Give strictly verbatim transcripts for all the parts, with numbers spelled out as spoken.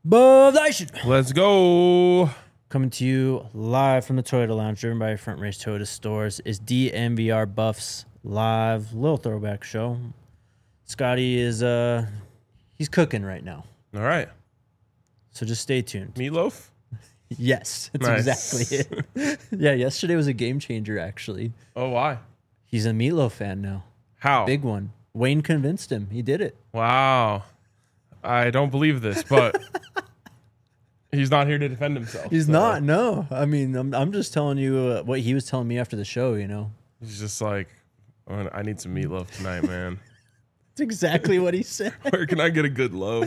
Buff Nation. Let's go. Coming to you live from the Toyota Lounge, driven by Front Range Toyota Stores, is D M V R Buffs live little throwback show. Scotty is uh he's cooking right now, All right. so just stay tuned. Meatloaf? Yes, that's Nice. exactly it. Yeah, yesterday was a game changer. Actually, Oh, why? he's a Meatloaf fan now. How? Big one. Wayne convinced him. He did it. Wow. I don't believe this, but he's not here to defend himself. He's so not. No, I mean, I'm I'm just telling you uh, what he was telling me after the show. You know, He's just like, "Oh, I need some meatloaf tonight, man. it's exactly what he said. Where can I get a good loaf?"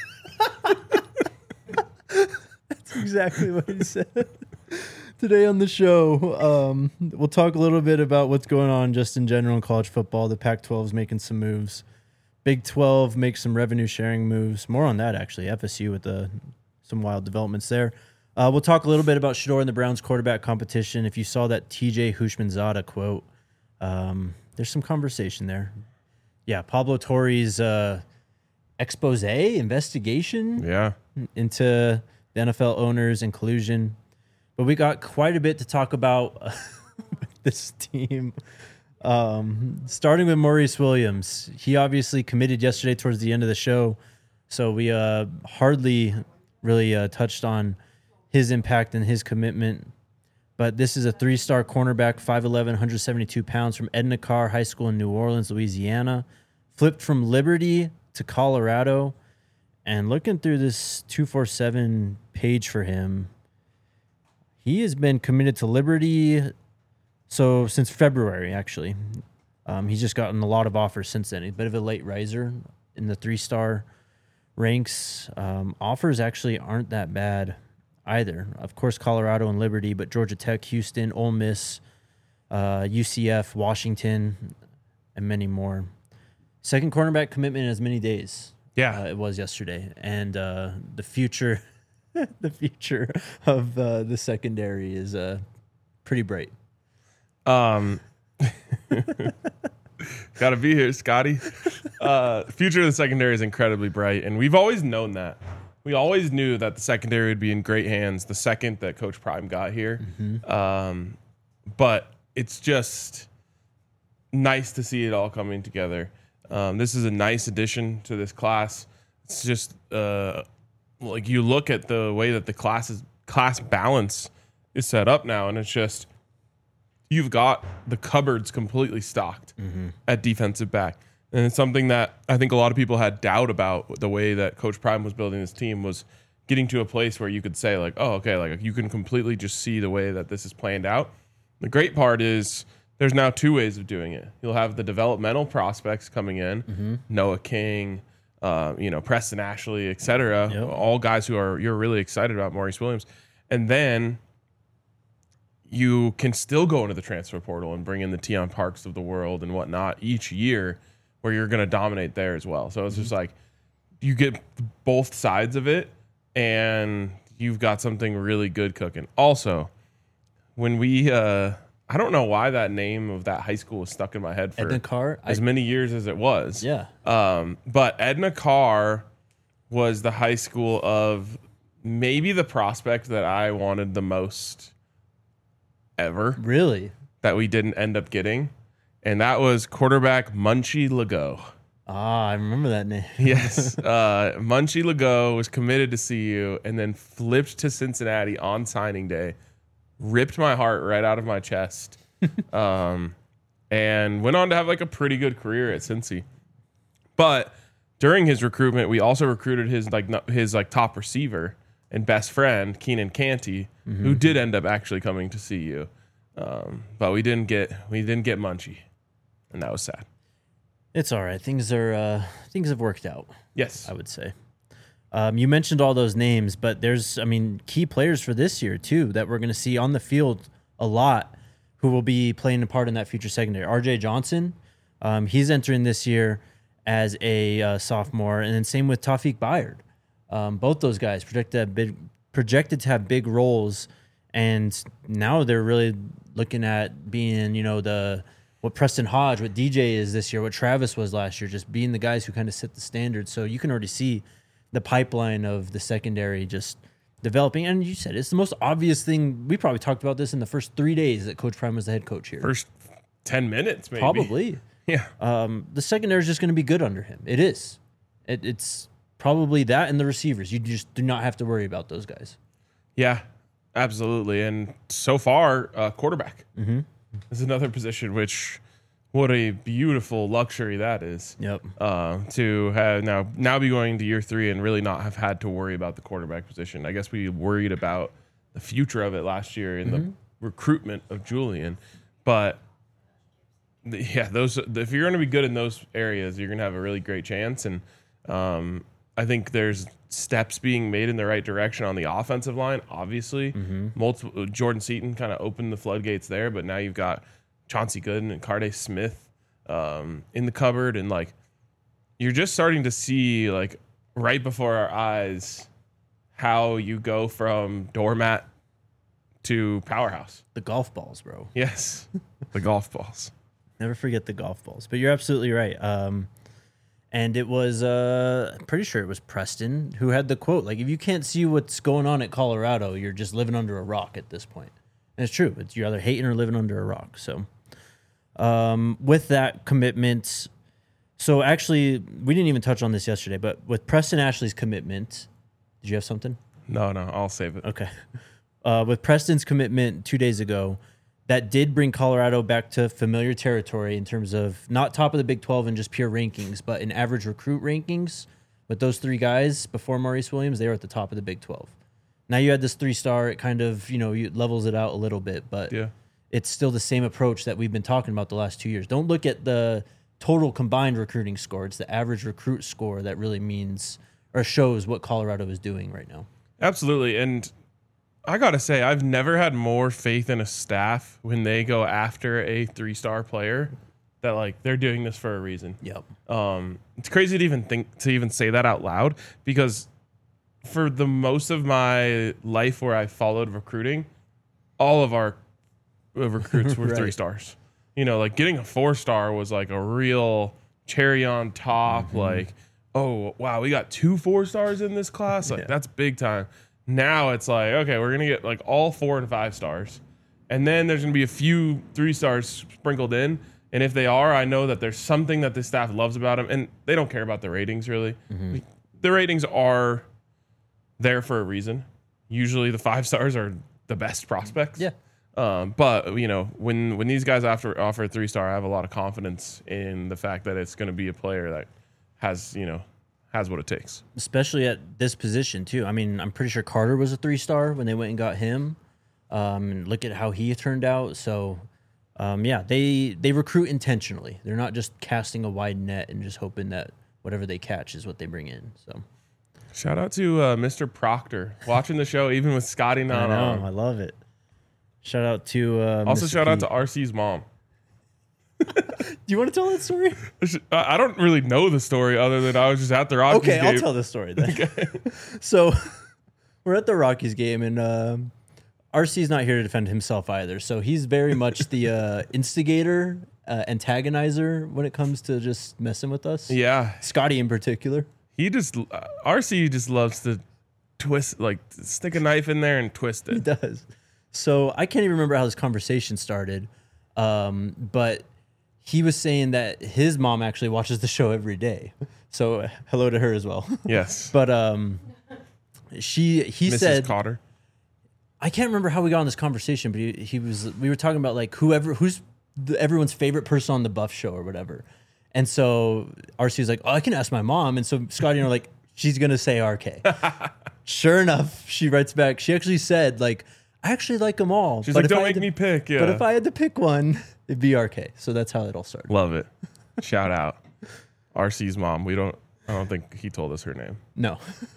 That's exactly what he said. Today on the show, um, we'll talk a little bit about what's going on just in general in college football. The Pac twelve is making some moves. Big twelve makes some revenue sharing moves. More on that, actually. F S U with the, some wild developments there. Uh, we'll talk a little bit about Shador and the Browns quarterback competition. If you saw that T J Hushmanzada quote, um, there's some conversation there. Yeah, Pablo Torre's uh, expose, investigation Yeah. into the N F L owners and collusion. But we got quite a bit to talk about uh, with this team. Um, starting with Maurice Williams. He obviously committed yesterday towards the end of the show, so we uh, hardly really uh, touched on his impact and his commitment. But this is a three-star cornerback, five eleven, one hundred seventy-two pounds, from Edna Carr High School in New Orleans, Louisiana. Flipped from Liberty to Colorado. And looking through this two forty-seven page for him, he has been committed to Liberty so since February, actually. Um, he's just gotten a lot of offers since then. He's a bit of a late riser in the three-star ranks. Um, offers actually aren't that bad either. Of course, Colorado and Liberty, but Georgia Tech, Houston, Ole Miss, uh, U C F, Washington, and many more. Second cornerback commitment in as many days. Yeah. Uh, it was yesterday. And uh, the future the future of uh, the secondary is uh, pretty bright. Um, gotta be here, Scotty. Uh, future of the secondary is incredibly bright, and we've always known that. We always knew that the secondary would be in great hands the second that Coach Prime got here. Mm-hmm. Um, but it's just nice to see it all coming together. Um, this is a nice addition to this class. It's just uh, like you look at the way that the class is, class balance is set up now, and it's just you've got the cupboards completely stocked Mm-hmm. at defensive back. And it's something that I think a lot of people had doubt about the way that Coach Prime was building this team, was getting to a place where you could say like, oh, okay, like you can completely just see the way that this is planned out. The great part is there's now two ways of doing it. You'll have the developmental prospects coming in, Mm-hmm. Noah King, uh, you know, Preston Ashley, et cetera. Yep. All guys who are you're really excited about, Maurice Williams. And then you can still go into the transfer portal and bring in the Tion Parks of the world and whatnot each year, where you're going to dominate there as well. So it's just like you get both sides of it, and you've got something really good cooking. Also, when we, uh, I don't know why that name of that high school was stuck in my head for Edna Carr, as I, many years as it was. yeah. Um, but Edna Carr was the high school of maybe the prospect that I wanted the most ever Really? that we didn't end up getting. And that was quarterback Munchie Legault. Ah, I remember that name. Yes. uh, Munchie Legault was committed to C U and then flipped to Cincinnati on signing day, ripped my heart right out of my chest, um, and went on to have like a pretty good career at Cincy. But during his recruitment, we also recruited his like no- his like top receiver and best friend, Keenan Canty, Mm-hmm. who did end up actually coming to C U. Um, but we didn't get we didn't get Munchie, and that was sad. It's all right. Things are uh, things have worked out, Yes. I would say. Um, you mentioned all those names, but there's, I mean, key players for this year too that we're going to see on the field a lot, who will be playing a part in that future secondary. R J Johnson, um, he's entering this year as a uh, sophomore, and then same with Tawfiq Bayard. Um, both those guys projected to have big, projected to have big roles, and now they're really looking at being, you know, the what Preston Hodge, what D J is this year, what Travis was last year, just being the guys who kind of set the standard. So you can already see the pipeline of the secondary just developing. And you said it's the most obvious thing. We probably talked about this in the first three days that Coach Prime was the head coach here. First ten minutes, maybe. Probably. Yeah. Um, the secondary is just going to be good under him. It is. It, it's probably that and the receivers. You just do not have to worry about those guys. Yeah, absolutely. And so far, uh, quarterback Mm-hmm. is another position which, what a beautiful luxury that is. Yep. Uh, to have now now be going to year three and really not have had to worry about the quarterback position. I guess we worried about the future of it last year in Mm-hmm. the recruitment of Julian, but yeah, those if you're going to be good in those areas, you're going to have a really great chance. And um, I think there's steps being made in the right direction on the offensive line. Obviously, Mm-hmm. multiple Jordan Seaton kind of opened the floodgates there, but now you've got Chauncey Gooden and Carday Smith um, in the cupboard, and like you're just starting to see like right before our eyes how you go from doormat to powerhouse. The golf balls, bro. Yes, the golf balls. Never forget the golf balls. But you're absolutely right. Um, and it was, uh, I'm pretty sure it was Preston who had the quote, like, if you can't see what's going on at Colorado, you're just living under a rock at this point. And it's true. It's, you're either hating or living under a rock. So um, with that commitment, so actually, we didn't even touch on this yesterday, but with Preston Ashley's commitment, did you have something? No, no, I'll save it. Okay. Uh, with Preston's commitment two days ago, that did bring Colorado back to familiar territory in terms of not top of the Big twelve in just pure rankings, but in average recruit rankings. With those three guys before Maurice Williams, they were at the top of the Big twelve. Now you had this three-star, it kind of, you know, you levels it out a little bit, but Yeah. it's still the same approach that we've been talking about the last two years. Don't look at the total combined recruiting score. It's the average recruit score that really means or shows what Colorado is doing right now. Absolutely. And I got to say, I've never had more faith in a staff when they go after a three-star player that like they're doing this for a reason. Yep. Um, it's crazy to even think to even say that out loud, because for the most of my life where I followed recruiting, all of our uh, recruits were Right. three stars. You know, like getting a four star was like a real cherry on top. Mm-hmm. Like, oh wow, we got two four stars in this class. Like Yeah. that's big time. Now it's like, okay, we're gonna get like all four to five stars, and then there's gonna be a few three stars sprinkled in. And if they are, I know that there's something that the staff loves about them, and they don't care about the ratings really. Mm-hmm. The ratings are there for a reason. Usually, the five stars are the best prospects. Yeah. Um, but you know, when when these guys offer offer a three star, I have a lot of confidence in the fact that it's going to be a player that has you know has what it takes. Especially at this position too. I mean, I'm pretty sure Carter was a three star when they went and got him. Um, and look at how he turned out. So, um, yeah, they they recruit intentionally. They're not just casting a wide net and just hoping that whatever they catch is what they bring in. So, Shout out to uh, Mister Proctor watching the show, even with Scotty I not know, on. I love it. Shout out to uh, Also, Mister shout out P. to R C's mom. Do you want to tell that story? I I don't really know the story other than I was just at the Rockies Okay, game. I'll tell the story then. So we're at the Rockies game, and um, R C's not here to defend himself either. So he's very much the uh, instigator, uh, antagonizer when it comes to just messing with us. Yeah, Scotty in particular. he just uh, R C just loves to twist, like stick a knife in there and twist He it. does. So I can't even remember how this conversation started, um, but he was saying that his mom actually watches the show every day. So uh, hello to her as well. Yes, But um, she he Missus said Cotter. I can't remember how we got on this conversation, but he, he was we were talking about like whoever who's the, everyone's favorite person on the Buff show or whatever. And so R C was like, "Oh, I can ask my mom." And so Scotty and I are like, "She's gonna say R K." Sure enough, she writes back. She actually said like, "I actually like them all." She's but like, if "Don't I had make to- me pick." Yeah, But if I had to pick one, it'd be R K. So that's how it all started. love it. Shout out R C's mom. We don't. I don't think he told us her name. No,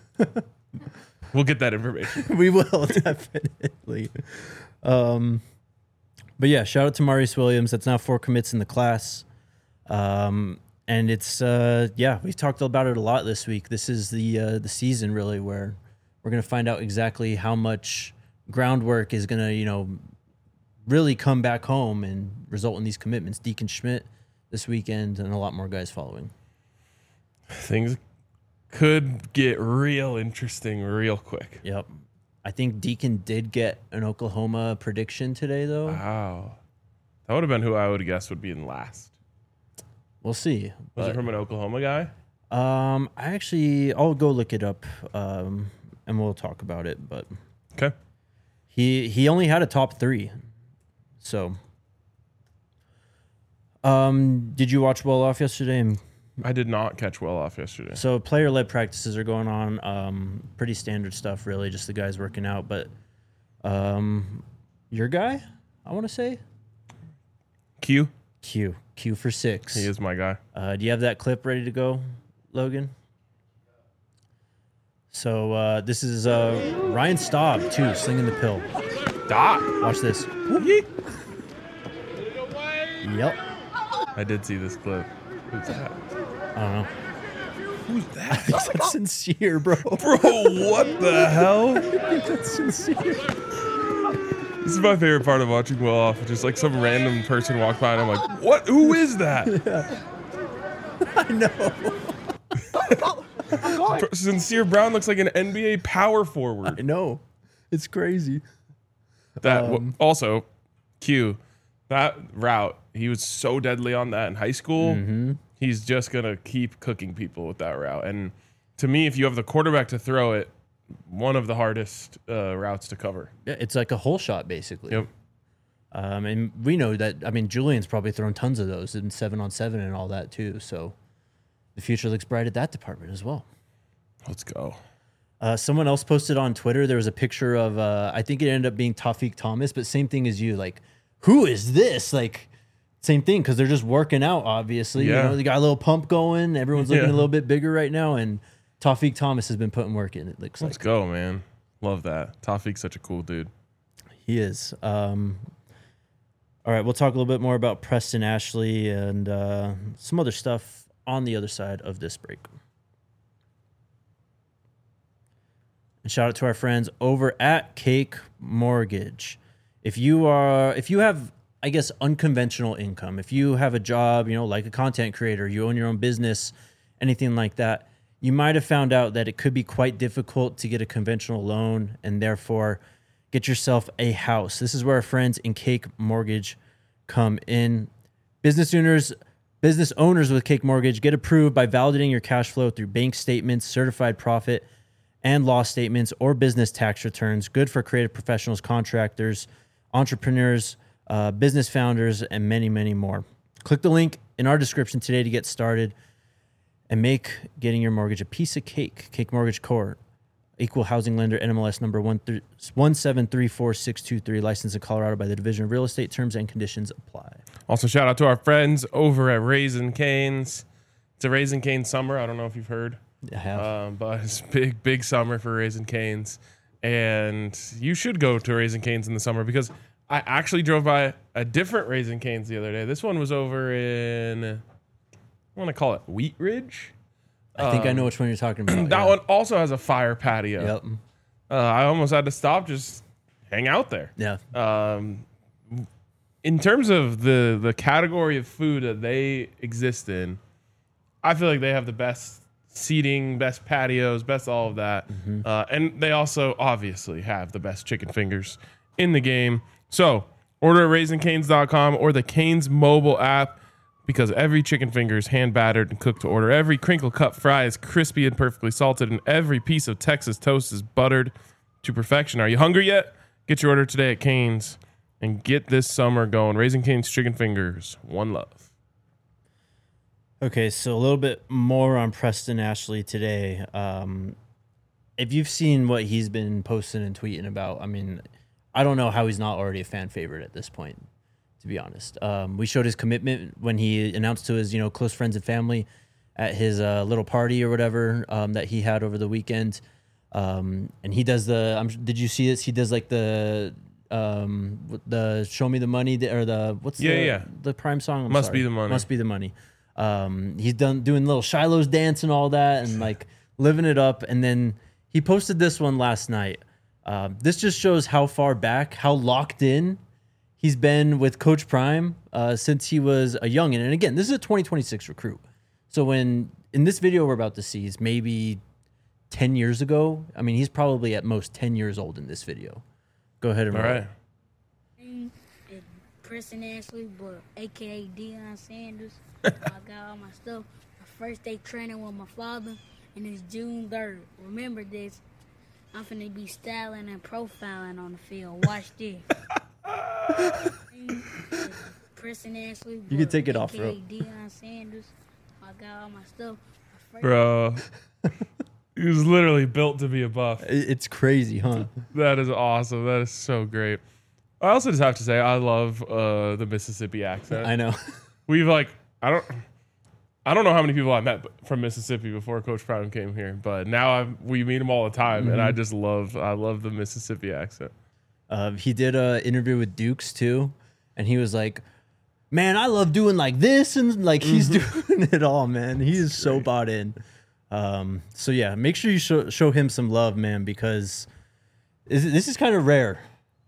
We'll get that information. we will definitely. Um, but yeah, shout out to Maurice Williams. That's now four commits in the class. Um, and it's uh, yeah, we've talked about it a lot this week. This is the uh, the season really where we're gonna find out exactly how much groundwork is gonna you know really come back home and result in these commitments. Deacon Schmidt this weekend and a lot more guys following. Things could get real interesting real quick. Yep. I think Deacon did get an Oklahoma prediction today, though. Wow. That would have been who I would have guessed would be in last. We'll see. Was But, it from an Oklahoma guy? um, I actually, I'll go look it up, um, and we'll talk about it. But Okay. he he only had a top three, so. Um, did you watch well off yesterday? I did not catch well off yesterday. So player-led practices are going on. Um, pretty standard stuff, really. Just the guys working out. But um, your guy, I want to say Q? Q. Q for six. He is my guy. Uh, do you have that clip ready to go, Logan? So uh, this is uh, Ryan Staub too, slinging the pill. Dot. Watch this. Yeet. Yep. I did see this clip. Who's that? I don't know. Who's that? That's sincere, bro. Bro, what the hell? That's sincere. This is my favorite part of watching Well Off. Just like some random person walk by and I'm like, what? Who is that? Yeah. I know. Sincere Brown looks like an N B A power forward. I know. It's crazy. That Um, also, Q, that route, he was so deadly on that in high school. Mm-hmm. He's just gonna keep cooking people with that route. And to me, if you have the quarterback to throw it, one of the hardest uh, routes to cover. Yeah, it's like a hole shot, basically. Yep. Um, and we know that, I mean, Julian's probably thrown tons of those in seven on seven and all that, too. So the future looks bright at that department as well. Let's go. Uh, someone else posted on Twitter, there was a picture of, uh, I think it ended up being Tawfiq Thomas, but same thing as you. Like, who is this? Like, same thing, because they're just working out, obviously. Yeah. You know, they got a little pump going. Everyone's looking Yeah. a little bit bigger right now, and Tawfiq Thomas has been putting work in, it looks Let's like. go, man. Love that. Tawfiq's such a cool dude. He is. Um, all right, we'll talk a little bit more about Preston Ashley and uh, some other stuff on the other side of this break. And shout out to our friends over at Cake Mortgage. If you are, if you have, I guess, unconventional income, if you have a job, you know, like a content creator, you own your own business, anything like that, you might have found out that it could be quite difficult to get a conventional loan and therefore get yourself a house. This is where our friends in Cake Mortgage come in. Business owners, business owners with Cake Mortgage get approved by validating your cash flow through bank statements, certified profit and loss statements, or business tax returns. Good for creative professionals, contractors, entrepreneurs, uh, business founders, and many, many more. Click the link in our description today to get started and make getting your mortgage a piece of cake. Cake Mortgage Corp, equal housing lender, N M L S number one seven three four six two three, licensed in Colorado by the Division of Real Estate. Terms and conditions apply. Also, shout out to our friends over at Raising Canes. It's a Raising Cane summer. I don't know if you've heard. I have. Um, but it's big, big summer for Raising Canes. And you should go to Raising Canes in the summer because I actually drove by a different Raising Canes the other day. This one was over in, I want to call it Wheat Ridge. I think I um, know which one you're talking about. That yeah. one also has a fire patio. Yep. Uh, I almost had to stop, just hang out there. Yeah. Um, in terms of the the category of food that they exist in, I feel like they have the best seating, best patios, best all of that. Mm-hmm. Uh, and they also obviously have the best chicken fingers in the game. So order at raising canes dot com or the Canes mobile app because every chicken finger is hand battered and cooked to order. Every crinkle cut fry is crispy and perfectly salted, and every piece of Texas toast is buttered to perfection. Are you hungry yet? Get your order today at Canes and get this summer going. Raising Cane's chicken fingers. One love. Okay, so a little bit more on Preston Ashley today. Um, if you've seen what he's been posting and tweeting about, I mean, I don't know how he's not already a fan favorite at this point, to be honest. Um, we showed his commitment when he announced to his, you know, close friends and family at his uh, little party or whatever um, that he had over the weekend. Um, and he does the, um, did you see this? He does like the, um, the show me the money or the, what's Yeah, the, yeah. the prime song? I'm Must sorry. Be the Money. Must be the money. Um, he's done doing little Shiloh's dance and all that and like living it up. And then he posted this one last night. Uh, this just shows how far back, how locked in he's been with Coach Prime uh, since he was a youngin'. And again, this is a twenty twenty-six recruit. So when in this video we're about to see is maybe ten years ago. I mean, he's probably at most ten years old in this video. Go ahead and All roll. right. Preston Ashley, but A K A Deion Sanders. I got all my stuff. My first day training with my father, and it's June third. Remember this. I'm finna be styling and profiling on the field. Watch this. Preston Ashley, You can take it off, bro. A K A Deion Sanders. I got all my stuff. My first Bro. He was literally built to be a buff. It- It's crazy, huh? That is awesome. That is so great. I also just have to say I love uh, the Mississippi accent. I know. We've like I don't I don't know how many people I met from Mississippi before Coach Prime came here, but now I've, we meet him all the time, mm-hmm. and I just love I love the Mississippi accent. Uh, he did an interview with Dukes too, and he was like, "Man, I love doing like this," and like he's mm-hmm. doing it all, man. He is so bought in. Um, so yeah, make sure you show, show him some love, man, because this, this is kind of rare.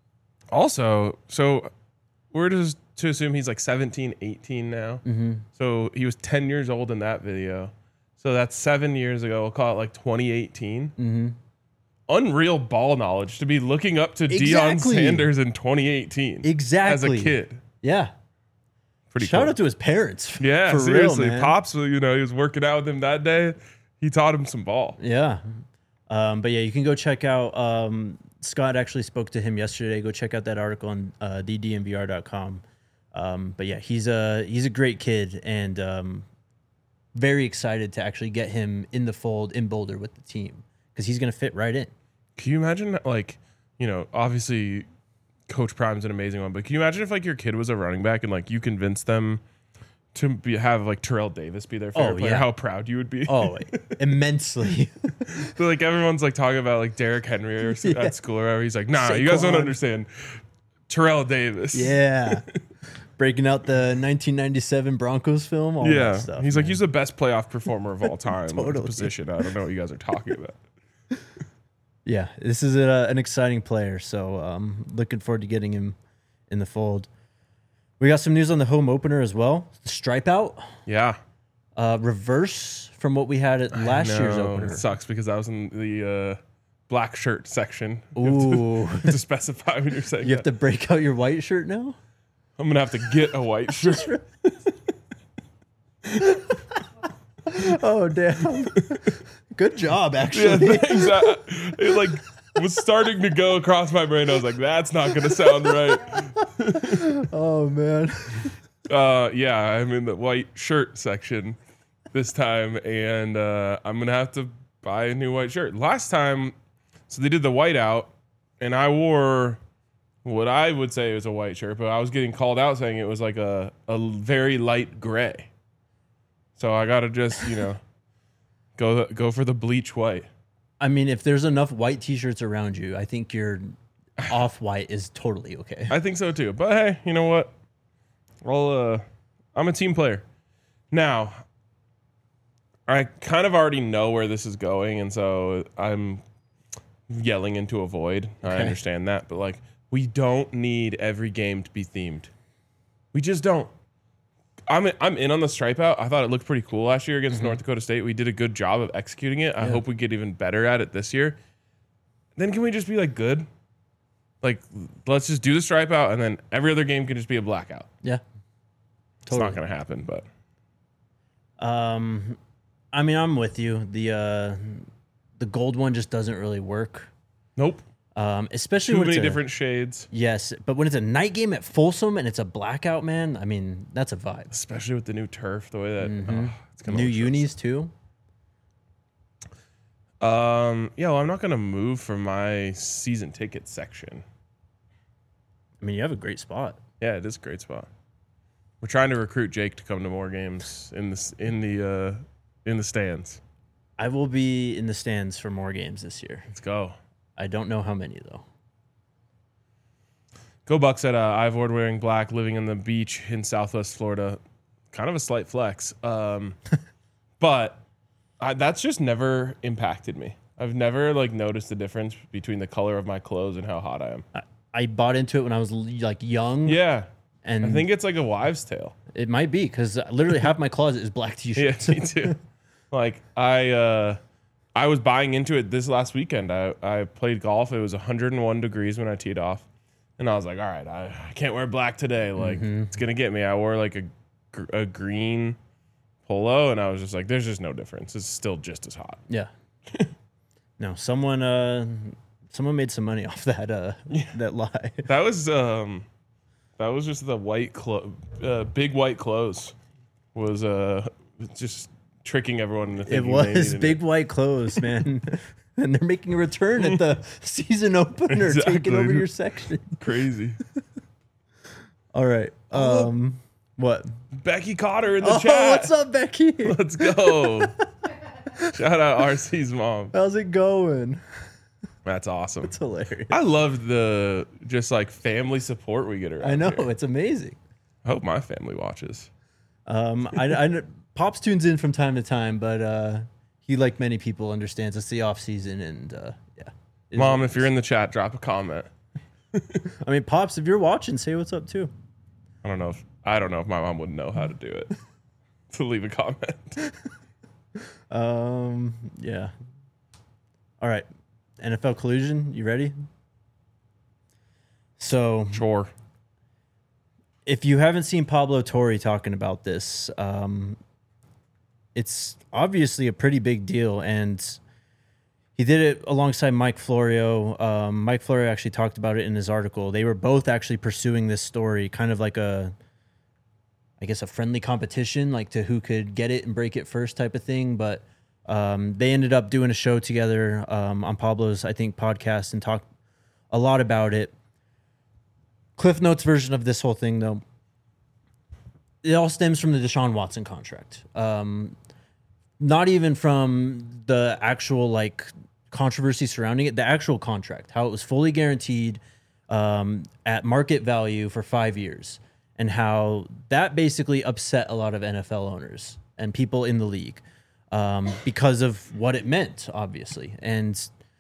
Also, so we're just to assume he's like seventeen, eighteen now. Mm-hmm. So he was ten years old in that video. So that's seven years ago. We'll call it like twenty eighteen. Mm-hmm. Unreal ball knowledge to be looking up to Exactly. Deion Sanders in twenty eighteen. Exactly. As a kid. Yeah. Pretty Shout cool. out to his parents. Yeah, for seriously. real, man. Pops, you know, he was working out with him that day. He taught him some ball. Yeah. Um, but yeah, you can go check out. Um, Scott actually spoke to him yesterday. Go check out that article on uh, d d m v r dot com. Um, but yeah, he's a he's a great kid, and um, very excited to actually get him in the fold in Boulder with the team because he's going to fit right in. Can you imagine, like, you know, obviously Coach Prime's an amazing one, but can you imagine if like your kid was a running back and like you convinced them to be, have like Terrell Davis be their favorite Oh, player? yeah. How proud you would be. Oh, immensely. So, like everyone's like talking about like Derrick Henry or s- Yeah. at school or whatever. He's like, nah, you guys don't Saquon. understand. Terrell Davis. Yeah. Breaking out the nineteen ninety-seven Broncos film. All Yeah. that stuff. He's like, man. he's the best playoff performer of all time at the Totally. position. I don't know what you guys are talking about. Yeah, this is a, an exciting player, so um, looking forward to getting him in the fold. We got some news on the home opener as well. The stripe out, Yeah. uh, reverse from what we had at last year's No, opener. It sucks because I was in the uh, black shirt section. You Ooh, have to, to specify when you're saying you have that. to break out your white shirt now? I'm going to have to get a white shirt. Oh, damn. Good job, Yeah, actually. thanks. I- it like was starting to go across my brain. I was like, that's not going to sound right. Oh, man. Uh, yeah, I'm in the white shirt section this time, and uh, I'm gonna have to buy a new white shirt. Last time, so they did the white out, and I wore what I would say was a white shirt, but I was getting called out saying it was like a a very light gray. So I gotta just you know go go for the bleach white. I mean, if there's enough white T-shirts around you, I think your off-white is totally okay. I think so too. But hey, you know what? Well, uh, I'm a team player. Now, I kind of already know where this is going, and so I'm yelling into a void. I Okay. understand that, but like, we don't need every game to be themed. We just don't. I'm in, I'm in on the stripe out. I thought it looked pretty cool last year against North Dakota State. We did a good job of executing it. I Yeah. hope we get even better at it this year. Then can we just be like good? Like, let's just do the stripe out, and then every other game can just be a blackout. Yeah. It's not going to happen, but Um, I mean, I'm with you. The uh, the gold one just doesn't really work. nope. Um, especially Too when many it's a, different shades, Yes, but when it's a night game at Folsom and it's a blackout, man, I mean, that's a vibe. especially with the new turf. The way that Mhm. oh, it's going New unis too. Um, yeah, well, I'm not going to move from my season ticket section. I mean, you have a great spot. Yeah, it is a great spot. We're trying to recruit Jake to come to more games in the in the uh, in the stands. I will be in the stands for more games this year. Let's go. I don't know how many though. Go Bucks at uh, Ivord wearing black, living on the beach in Southwest Florida. Kind of a slight flex, um, but I, that's just never impacted me. I've never like noticed the difference between the color of my clothes and how hot I am. I, I bought into it when I was like young. Yeah, and I think it's like a wives' tale. it might be because literally half my closet is black Yeah, T-shirts. me too. Like I, uh, I was buying into it this last weekend. I, I played golf. It was one hundred one degrees when I teed off, and I was like, all right, I, I can't wear black today. Like Mm-hmm. it's gonna get me. I wore like a, gr- a green polo, and I was just like, there's just no difference. It's still just as hot. Yeah. No, someone uh someone made some money off that uh that lie. That was um, that was just the white clo- uh, big white clothes was uh just tricking everyone into It thinking they was needed big white clothes, man. And they're making a return at the season opener, taking Exactly. over your section. Crazy. All right. Um what? Becky Cotter in the Oh, chat. what's up, Becky? Let's go. Shout out R C's mom. How's it going? That's awesome. It's hilarious. I love the just like family support we get around I know, here. it's amazing. I hope my family watches. Um, I, I kn- Pops tunes in from time to time, but uh, he, like many people, understands it's the off season, and uh, yeah. It is Mom, what if you're in the chat, drop a comment. it is. I mean, Pops, if you're watching, say what's up too. I don't know if I don't know if my mom would know how to do it. To leave a comment. Um, yeah. All right, N F L collusion. You ready? So, Sure. if you haven't seen Pablo Torre talking about this, um, it's obviously a pretty big deal, and he did it alongside Mike Florio. Um, Mike Florio actually talked about it in his article. They were both actually pursuing this story, kind of like a, I guess, a friendly competition, like to who could get it and break it first type of thing. But um, they ended up doing a show together um, on Pablo's, I think, podcast and talked a lot about it. Cliff Notes version of this whole thing, though, it all stems from the Deshaun Watson contract. Um, not even from the actual like controversy surrounding it, the actual contract, how it was fully guaranteed um, at market value for five years, and how that basically upset a lot of N F L owners and people in the league um, because of what it meant, obviously. And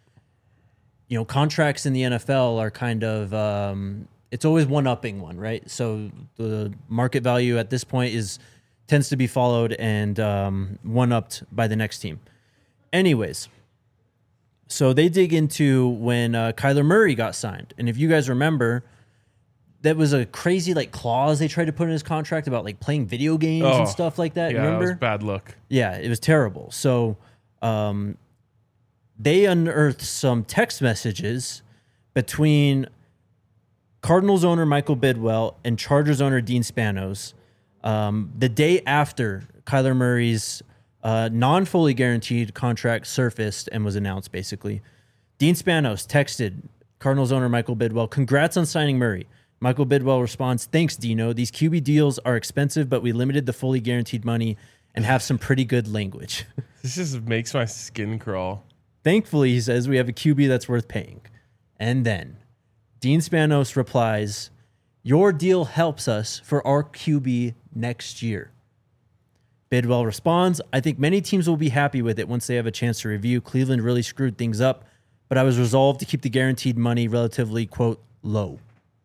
you know, contracts in the N F L are kind of um, it's always one-upping one, right? So the market value at this point is tends to be followed and um, one-upped by the next team. Anyways, so they dig into when uh, Kyler Murray got signed. And if you guys remember, that was a crazy like clause they tried to put in his contract about like playing video games Oh, and stuff like that. Yeah, Remember? that was bad look. Yeah, it was terrible. So um, they unearthed some text messages between Cardinals owner Michael Bidwell and Chargers owner Dean Spanos um, the day after Kyler Murray's uh, non-fully guaranteed contract surfaced and was announced, basically. Dean Spanos texted Cardinals owner Michael Bidwell, "Congrats on signing Murray." Michael Bidwell responds, "Thanks, Dino. These Q B deals are expensive, but we limited the fully guaranteed money and have some pretty good language." This just makes my skin crawl. Thankfully, he says, we have a Q B that's worth paying. And then Dean Spanos replies, "Your deal helps us for our Q B next year." Bidwell responds, "I think many teams will be happy with it once they have a chance to review. Cleveland really screwed things up, but I was resolved to keep the guaranteed money relatively, quote, low."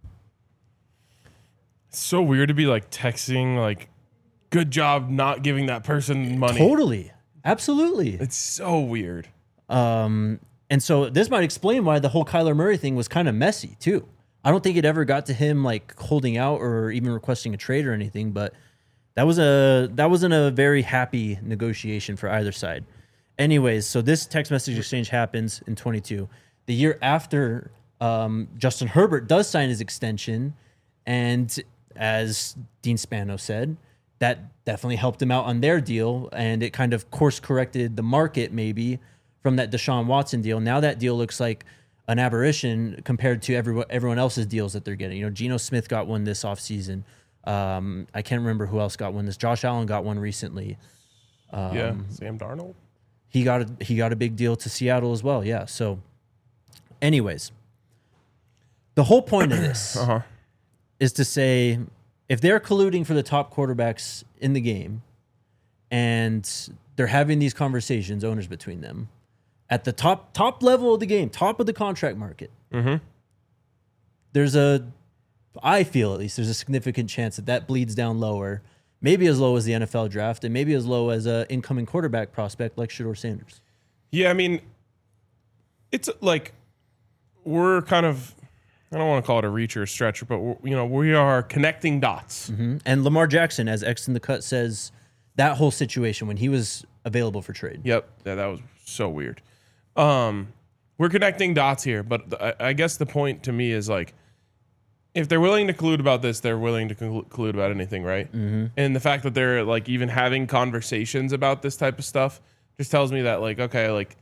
It's so weird to be like texting like, "Good job not giving that person money." Totally. Absolutely. It's so weird. Um, and so this might explain why the whole Kyler Murray thing was kind of messy too. I don't think it ever got to him like holding out or even requesting a trade or anything, but that was a that wasn't a very happy negotiation for either side. Anyways, so this text message exchange happens in twenty-two. The year after um, Justin Herbert does sign his extension, and as Dean Spano said, that definitely helped him out on their deal, and it kind of course corrected the market maybe from that Deshaun Watson deal. Now that deal looks like an aberration compared to everyone everyone else's deals that they're getting. You know, Geno Smith got one this offseason. Um, I can't remember who else got one this. Josh Allen got one recently. Um, Yeah, Sam Darnold. He got a, he got a big deal to Seattle as well. Yeah. So, anyways, the whole point of this Uh huh. is to say if they're colluding for the top quarterbacks in the game and they're having these conversations, owners between them, at the top top level of the game, top of the contract market, Mm-hmm. there's a, I feel at least, there's a significant chance that that bleeds down lower. maybe as low as the N F L draft, and maybe as low as a incoming quarterback prospect like Shedeur Sanders. Yeah, I mean, it's like we're kind of, I don't want to call it a reach or a stretch, but we're, you know, we are connecting dots. Mm-hmm. And Lamar Jackson, as X in the Cut says, that whole situation when he was available for trade. Yep, yeah, that was so weird. Um, we're connecting dots here, but th- I guess the point to me is like, if they're willing to collude about this, they're willing to conclu- collude about anything, right? Mm-hmm. And the fact that they're like even having conversations about this type of stuff just tells me that like, okay, like,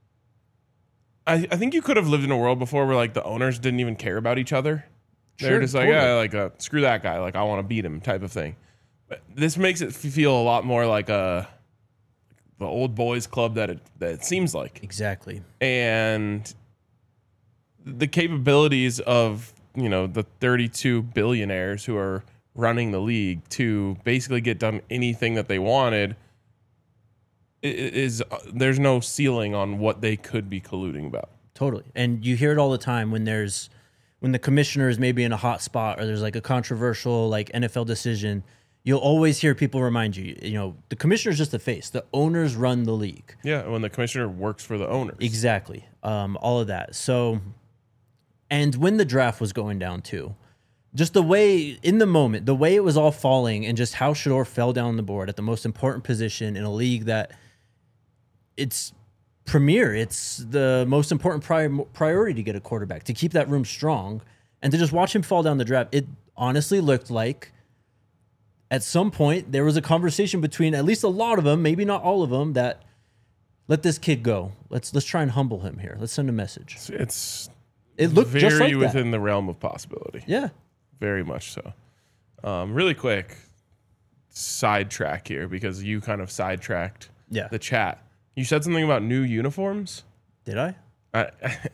I, I think you could have lived in a world before where like the owners didn't even care about each other. They're Sure, just like, totally. yeah, like uh, screw that guy, like I want to beat him, type of thing. But this makes it feel a lot more like a the old boys club that it that it seems like, Exactly. and the capabilities of you know the thirty-two billionaires who are running the league to basically get done anything that they wanted i- i- is uh, there's no ceiling on what they could be colluding about. Totally. And you hear it all the time when there's when the commissioner is maybe in a hot spot or there's like a controversial like N F L decision, you'll always hear people remind you, you know, the commissioner's just the face. The owners run the league. Yeah, when the commissioner works for the owners. Exactly. Um, all of that. So, and when the draft was going down too, just the way in the moment, the way it was all falling and just how Shedeur fell down the board at the most important position in a league that it's premier. It's the most important pri- priority to get a quarterback, to keep that room strong, and to just watch him fall down the draft. It honestly looked like at some point there was a conversation between at least a lot of them, maybe not all of them, that let this kid go. Let's let's try and humble him here. Let's send a message. It's, it's It looked very just like that. within the realm of possibility. Yeah. Very much so. Um, really quick sidetrack here because you kind of sidetracked Yeah. the chat. You said something about new uniforms. Did I? I,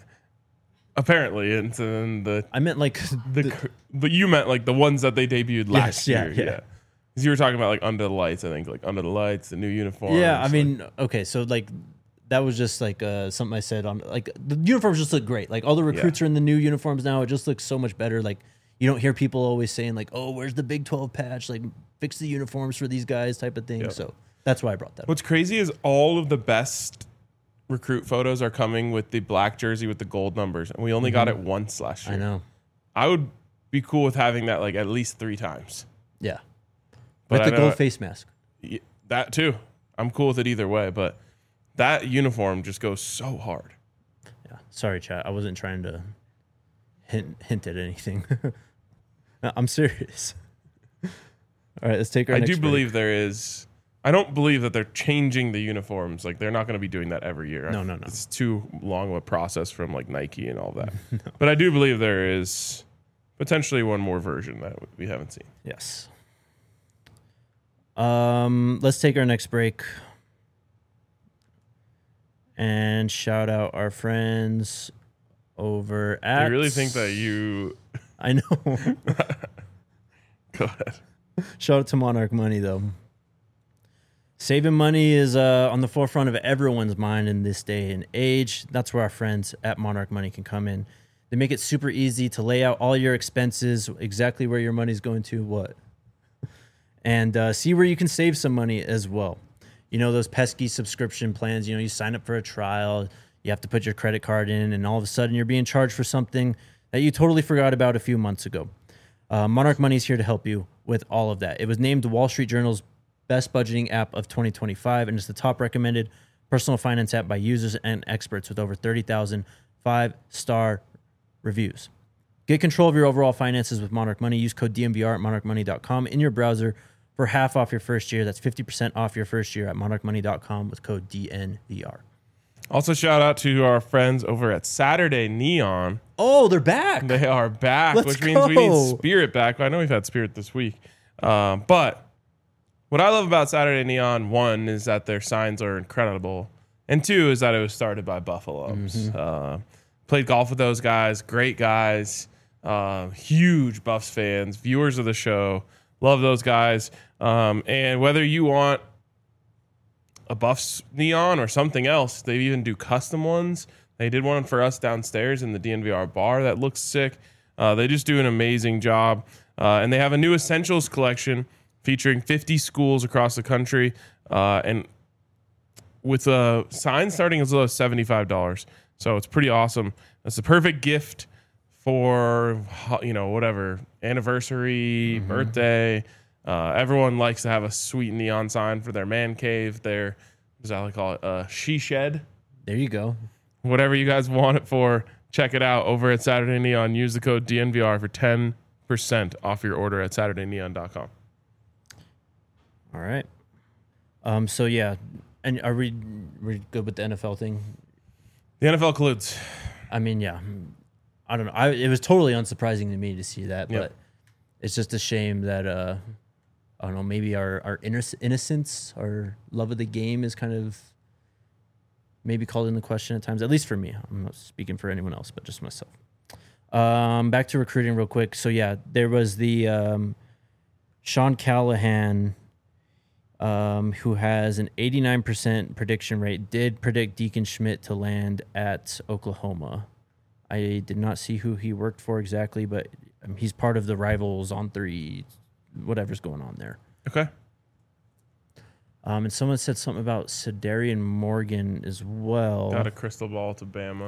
apparently, and then the I meant like the, the, but you meant like the ones that they debuted last yeah, year. yeah. Yeah. Because you were talking about like Under the Lights. I think like Under the Lights, the new uniforms. yeah. I like- mean, okay, so like that was just like uh, something I said on like the uniforms just look great. Like all the recruits are in the new uniforms now. It just looks so much better. Like you don't hear people always saying like, "Oh, where's the Big twelve patch? Like fix the uniforms for these guys," type of thing. Yep. So that's why I brought that up. What's crazy is all of the best recruit photos are coming with the black jersey with the gold numbers, and we only got it once last year. I know. I would be cool with having that like at least three times. Yeah. But With I the know- gold face mask. Y- That too. I'm cool with it either way, but that uniform just goes so hard. Yeah. Sorry, chat. I wasn't trying to hint hint at anything. No, I'm serious. All right, let's take our I next do break. believe there is. I don't believe that they're changing the uniforms. Like they're not going to be doing that every year. No, no, no. It's too long of a process from like Nike and all that. But I do believe there is potentially one more version that we haven't seen. Yes. Um, let's take our next break and shout out our friends over at. I really think that you. I know. Go ahead. Shout out to Monarch Money though. Saving money is uh, on the forefront of everyone's mind in this day and age. That's where our friends at Monarch Money can come in. They make it super easy to lay out all your expenses, exactly where your money's going to, what, and uh, see where you can save some money as well. You know, those pesky subscription plans, you know, you sign up for a trial, you have to put your credit card in, and all of a sudden you're being charged for something that you totally forgot about a few months ago. Uh, Monarch Money is here to help you with all of that. It was named the Wall Street Journal's best budgeting app of twenty twenty-five, and it's the top recommended personal finance app by users and experts with over thirty thousand five-star reviews. Get control of your overall finances with Monarch Money. Use code D M V R at monarch money dot com in your browser for half off your first year. That's fifty percent off your first year at monarch money dot com with code D N V R. Also, shout out to our friends over at Saturday Neon. Oh, they're back. They are back, Let's which means we need go. Spirit back. I know we've had Spirit this week. Um, but what I love about Saturday Neon, one, is that their signs are incredible. And two, is that it was started by Buffaloes. Mm-hmm. Uh, played golf with those guys. Great guys. Uh, huge Buffs fans. Viewers of the show. Love those guys. Um, and whether you want a Buffs neon or something else, they even do custom ones. They did one for us downstairs in the D N V R bar that looks sick. Uh, they just do an amazing job. Uh, and they have a new Essentials collection featuring fifty schools across the country, uh, and with a sign starting as low as seventy-five dollars. So it's pretty awesome. It's the perfect gift for, you know, whatever, anniversary, mm-hmm. birthday. Uh, everyone likes to have a sweet neon sign for their man cave, their, what does that like call it, uh, she shed. There you go. Whatever you guys want it for, check it out over at Saturday Neon. Use the code D N V R for ten percent off your order at saturday neon dot com. All right. Um. So, yeah. And are we, we good with the N F L thing? The N F L colludes. I mean, yeah. I don't know. I, it was totally unsurprising to me to see that, Yep. but it's just a shame that, uh, I don't know, maybe our, our innoc- innocence, our love of the game is kind of maybe called into question at times, at least for me. I'm not speaking for anyone else, but just myself. Um, back to recruiting real quick. So, yeah, there was the um, Sean Callahan, um, who has an eighty-nine percent prediction rate, did predict Deacon Schmidt to land at Oklahoma. I did not see who he worked for exactly, but um, he's part of the Rivals on three, whatever's going on there. Okay. Um, and someone said something about Sedarian Morgan as well. Got a crystal ball to Bama.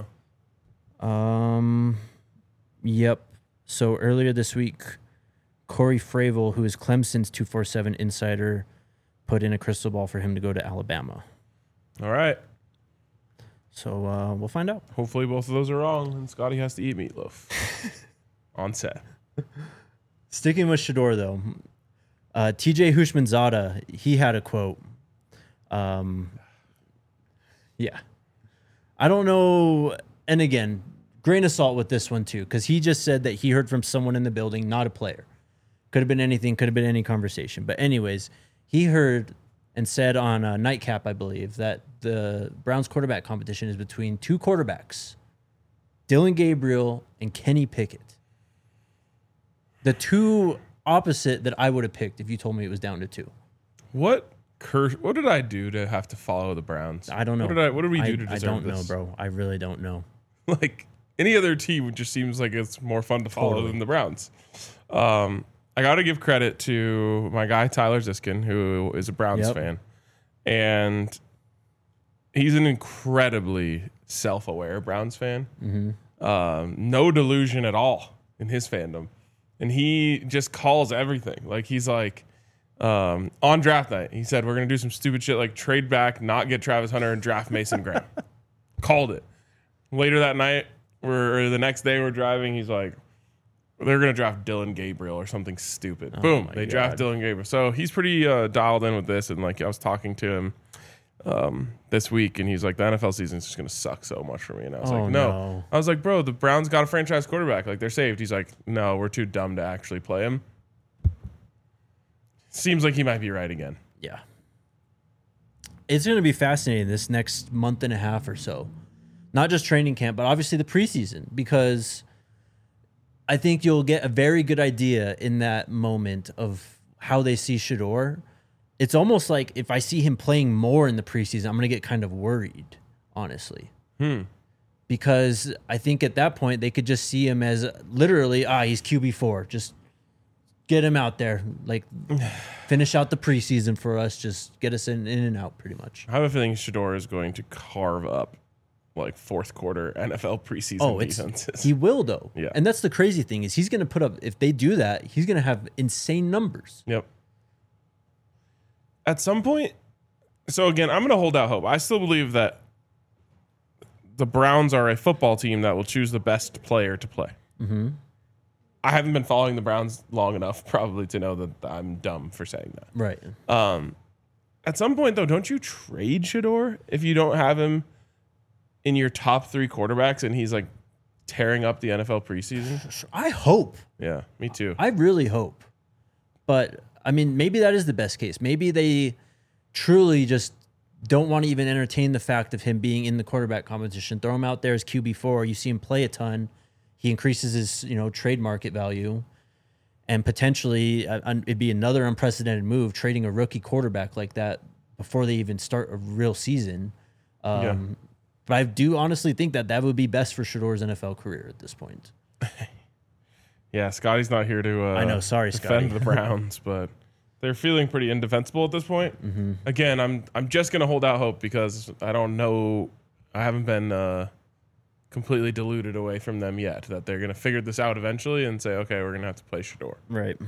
Um, yep. So earlier this week, Corey Fravel, who is Clemson's two forty-seven insider, put in a crystal ball for him to go to Alabama. All right. So uh, we'll find out. Hopefully both of those are wrong, and Scotty has to eat meatloaf on set. Sticking with Shedeur, though, uh, T J Hushmanzada, he had a quote. Um, yeah. I don't know. And again, grain of salt with this one, too, because he just said that he heard from someone in the building, not a player. Could have been anything, could have been any conversation. But anyways, he heard and said on a Nightcap, I believe, that the Browns quarterback competition is between two quarterbacks, Dylan Gabriel and Kenny Pickett. The two opposite that I would have picked if you told me it was down to two. What curse? What did I do to have to follow the Browns? I don't know. What did I? What did we do I, to deserve I don't this? know, bro. I really don't know. Like any other team, just seems like it's more fun to follow Totally. than the Browns. Um, I got to give credit to my guy Tyler Ziskin, who is a Browns Yep. fan, and he's an incredibly self-aware Browns fan. Mm-hmm. Um, no delusion at all in his fandom, and he just calls everything. Like he's like um, on draft night, he said we're gonna do some stupid shit like trade back, not get Travis Hunter, and draft Mason Graham. Called it. Later that night, we're or the next day we're driving. He's like, they're gonna draft Dylan Gabriel or something stupid. Oh Boom, my they God. draft Dylan Gabriel. So he's pretty uh, dialed in with this, and like I was talking to him um, this week, and he's like, the N F L season is just gonna suck so much for me. And I was Oh, like, no. no. I was like, bro, the Browns got a franchise quarterback. Like they're saved. He's like, no, we're too dumb to actually play him. Seems like he might be right again. Yeah. It's going to be fascinating this next month and a half or so. Not just training camp, but obviously the preseason, because I think you'll get a very good idea in that moment of how they see Shedeur. It's almost like if I see him playing more in the preseason, I'm going to get kind of worried, honestly. Hmm. Because I think at that point they could just see him as literally, ah, he's Q B four. Just get him out there. Like, finish out the preseason for us. Just get us in, in and out pretty much. I have a feeling Shedeur is going to carve up like fourth quarter N F L preseason Oh, it's, defenses. he will, though. Yeah. And that's the crazy thing is he's going to put up, if they do that, he's going to have insane numbers. Yep. At some point, so again, I'm going to hold out hope. I still believe that the Browns are a football team that will choose the best player to play. Mm-hmm. I haven't been following the Browns long enough probably to know that I'm dumb for saying that. Right. Um, at some point, though, don't you trade Shedeur if you don't have him in your top three quarterbacks and he's like tearing up the N F L preseason? I hope. Yeah, me too. I really hope. But, I mean, maybe that is the best case. Maybe they truly just don't want to even entertain the fact of him being in the quarterback competition. Throw him out there as Q B four. You see him play a ton. He increases his, you know, trade market value. And potentially, uh, it'd be another unprecedented move, trading a rookie quarterback like that before they even start a real season. Um, Yeah. But I do honestly think that that would be best for Shedeur's N F L career at this point. Yeah, Scotty's not here to uh, I know, sorry, defend Scotty. the Browns, but they're feeling pretty indefensible at this point. Mm-hmm. Again, I'm I'm just gonna hold out hope because I don't know. I haven't been uh, completely deluded away from them yet that they're gonna figure this out eventually and say, okay, we're gonna have to play Shedeur. Right.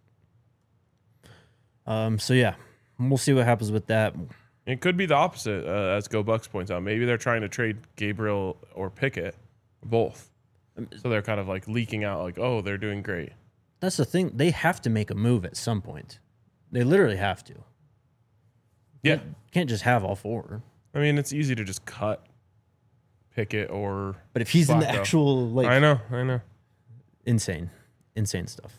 Um. So yeah, we'll see what happens with that. It could be the opposite, uh, as Go Bucks points out. Maybe they're trying to trade Gabriel or Pickett, both. So they're kind of like leaking out, like, oh, they're doing great. That's the thing. They have to make a move at some point. They literally have to. Yeah. You can't just have all four. I mean, it's easy to just cut Pickett or. But if he's in the Flacco. actual, like. I know, I know. Insane. Insane stuff.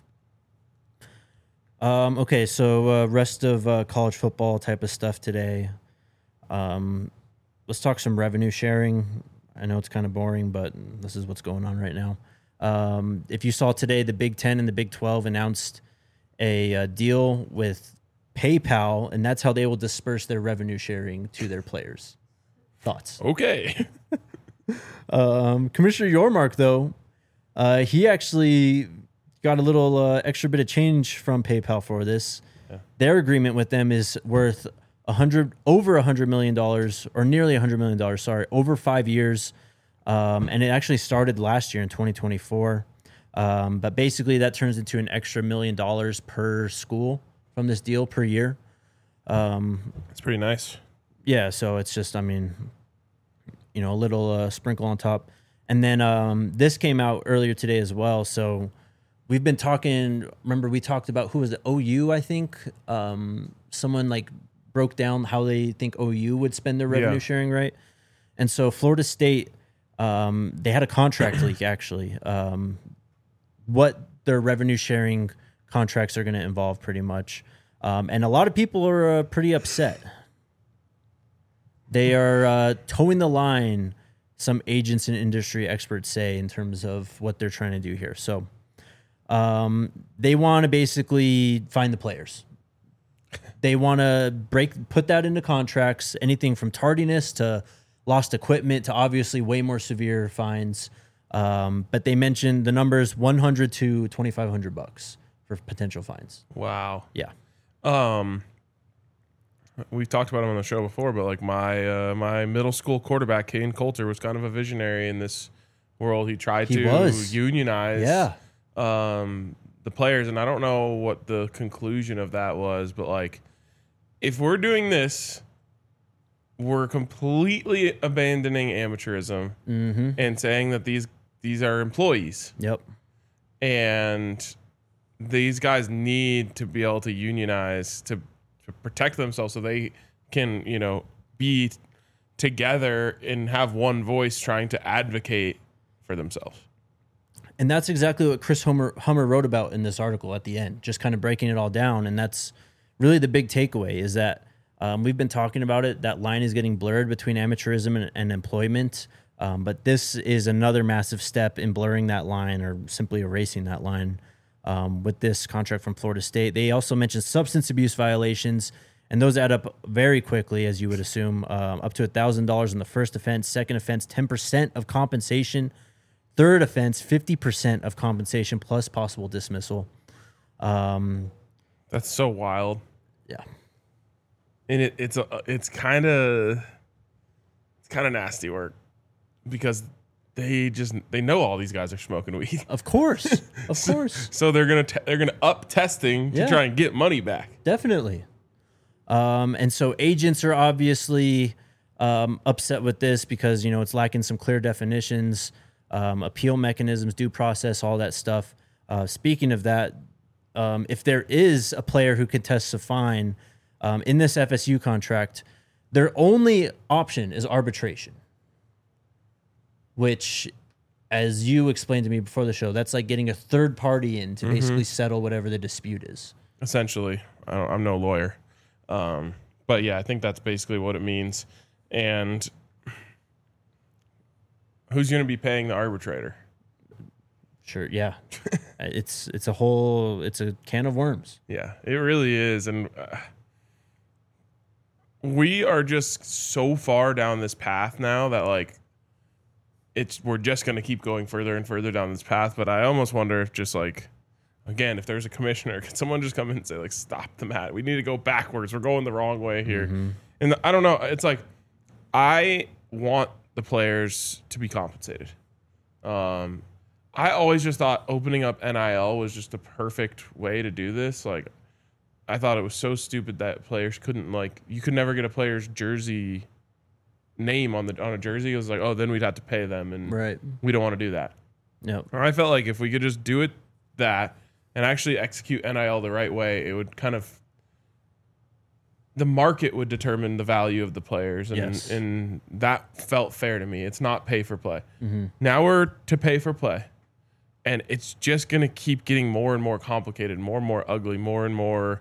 Um, okay, so uh, rest of uh, college football type of stuff today. Um, let's talk some revenue sharing. I know it's kind of boring, but this is what's going on right now. Um, if you saw today, the Big Ten and the Big twelve announced a, uh deal with PayPal, and that's how they will disperse their revenue sharing to their players. Thoughts? Okay. Um, Commissioner Yormark, though, uh, he actually got a little uh, extra bit of change from PayPal for this. Yeah. Their agreement with them is worth a hundred over a hundred million dollars, or nearly a hundred million dollars. Sorry, over five years, um, and it actually started last year in twenty twenty-four. Um, but basically, that turns into an extra million dollars per school from this deal per year. Um, That's pretty nice. Yeah, so it's just, I mean, you know, a little uh, sprinkle on top. And then um, this came out earlier today as well. So we've been talking, remember we talked about, who was it, O U, I think? Um, someone like broke down how they think O U would spend their revenue Yeah. sharing, right? And so Florida State, um, they had a contract leak, actually. Um, what their revenue sharing contracts are going to involve, pretty much. Um, and a lot of people are uh, pretty upset. They are uh, towing the line, some agents and industry experts say, in terms of what they're trying to do here. So um, they want to basically find the players. They want to break, put that into contracts, anything from tardiness to lost equipment to obviously way more severe fines. Um, but they mentioned the numbers one hundred to twenty-five hundred bucks for potential fines. Wow. Yeah. Um, we've talked about him on the show before, but like my uh, my middle school quarterback, Kane Coulter, was kind of a visionary in this world. He tried He to was. unionize Yeah. um, the players, and I don't know what the conclusion of that was, but like, if we're doing this, we're completely abandoning amateurism Mm-hmm. and saying that these these are employees, Yep. and these guys need to be able to unionize to, to protect themselves so they can, you know, be together and have one voice trying to advocate for themselves. And that's exactly what Chris Hummer, Hummer wrote about in this article at the end, just kind of breaking it all down. And that's really the big takeaway, is that um, we've been talking about it. That line is getting blurred between amateurism and, and employment. Um, but this is another massive step in blurring that line, or simply erasing that line, um, with this contract from Florida State. They also mentioned substance abuse violations, and those add up very quickly, as you would assume, um, up to one thousand dollars in the first offense. Second offense, ten percent of compensation. Third offense, fifty percent of compensation plus possible dismissal. Um, That's so wild. yeah. And it, it's a, it's kind of it's kind of nasty work, because they just they know all these guys are smoking weed. Of course. Of course. So they're gonna te- they're gonna up testing to Yeah. try and get money back. Definitely. Um, and so agents are obviously um, upset with this because, you know, it's lacking some clear definitions, um, appeal mechanisms, due process, all that stuff. Uh, speaking of that, um, if there is a player who contests a fine um, in this F S U contract, their only option is arbitration, which, as you explained to me before the show, that's like getting a third party in to basically settle whatever the dispute is. Essentially, I don't, I'm no lawyer, um, but yeah, I think that's basically what it means. And who's going to be paying the arbitrator? Sure, yeah. it's it's a whole it's a can of worms. Yeah, it really is. And uh, we are just so far down this path now that like it's we're just going to keep going further and further down this path. But I almost wonder if just like again, if there's a commissioner, can someone just come in and say, like, stop the mat? We need to go backwards. We're going the wrong way here. Mm-hmm. And the, I don't know. It's like, I want the players to be compensated. Um, I always just thought opening up N I L was just the perfect way to do this. Like, I thought it was so stupid that players couldn't, like, you could never get a player's jersey name on the on a jersey. It was like, oh, then we'd have to pay them, and right. we don't want to do that. Yep. Or I felt like if we could just do it that and actually execute N I L the right way, it would kind of, the market would determine the value of the players, and yes. and that felt fair to me. It's not pay for play. Mm-hmm. Now we're to pay for play, and it's just going to keep getting more and more complicated, more and more ugly, more and more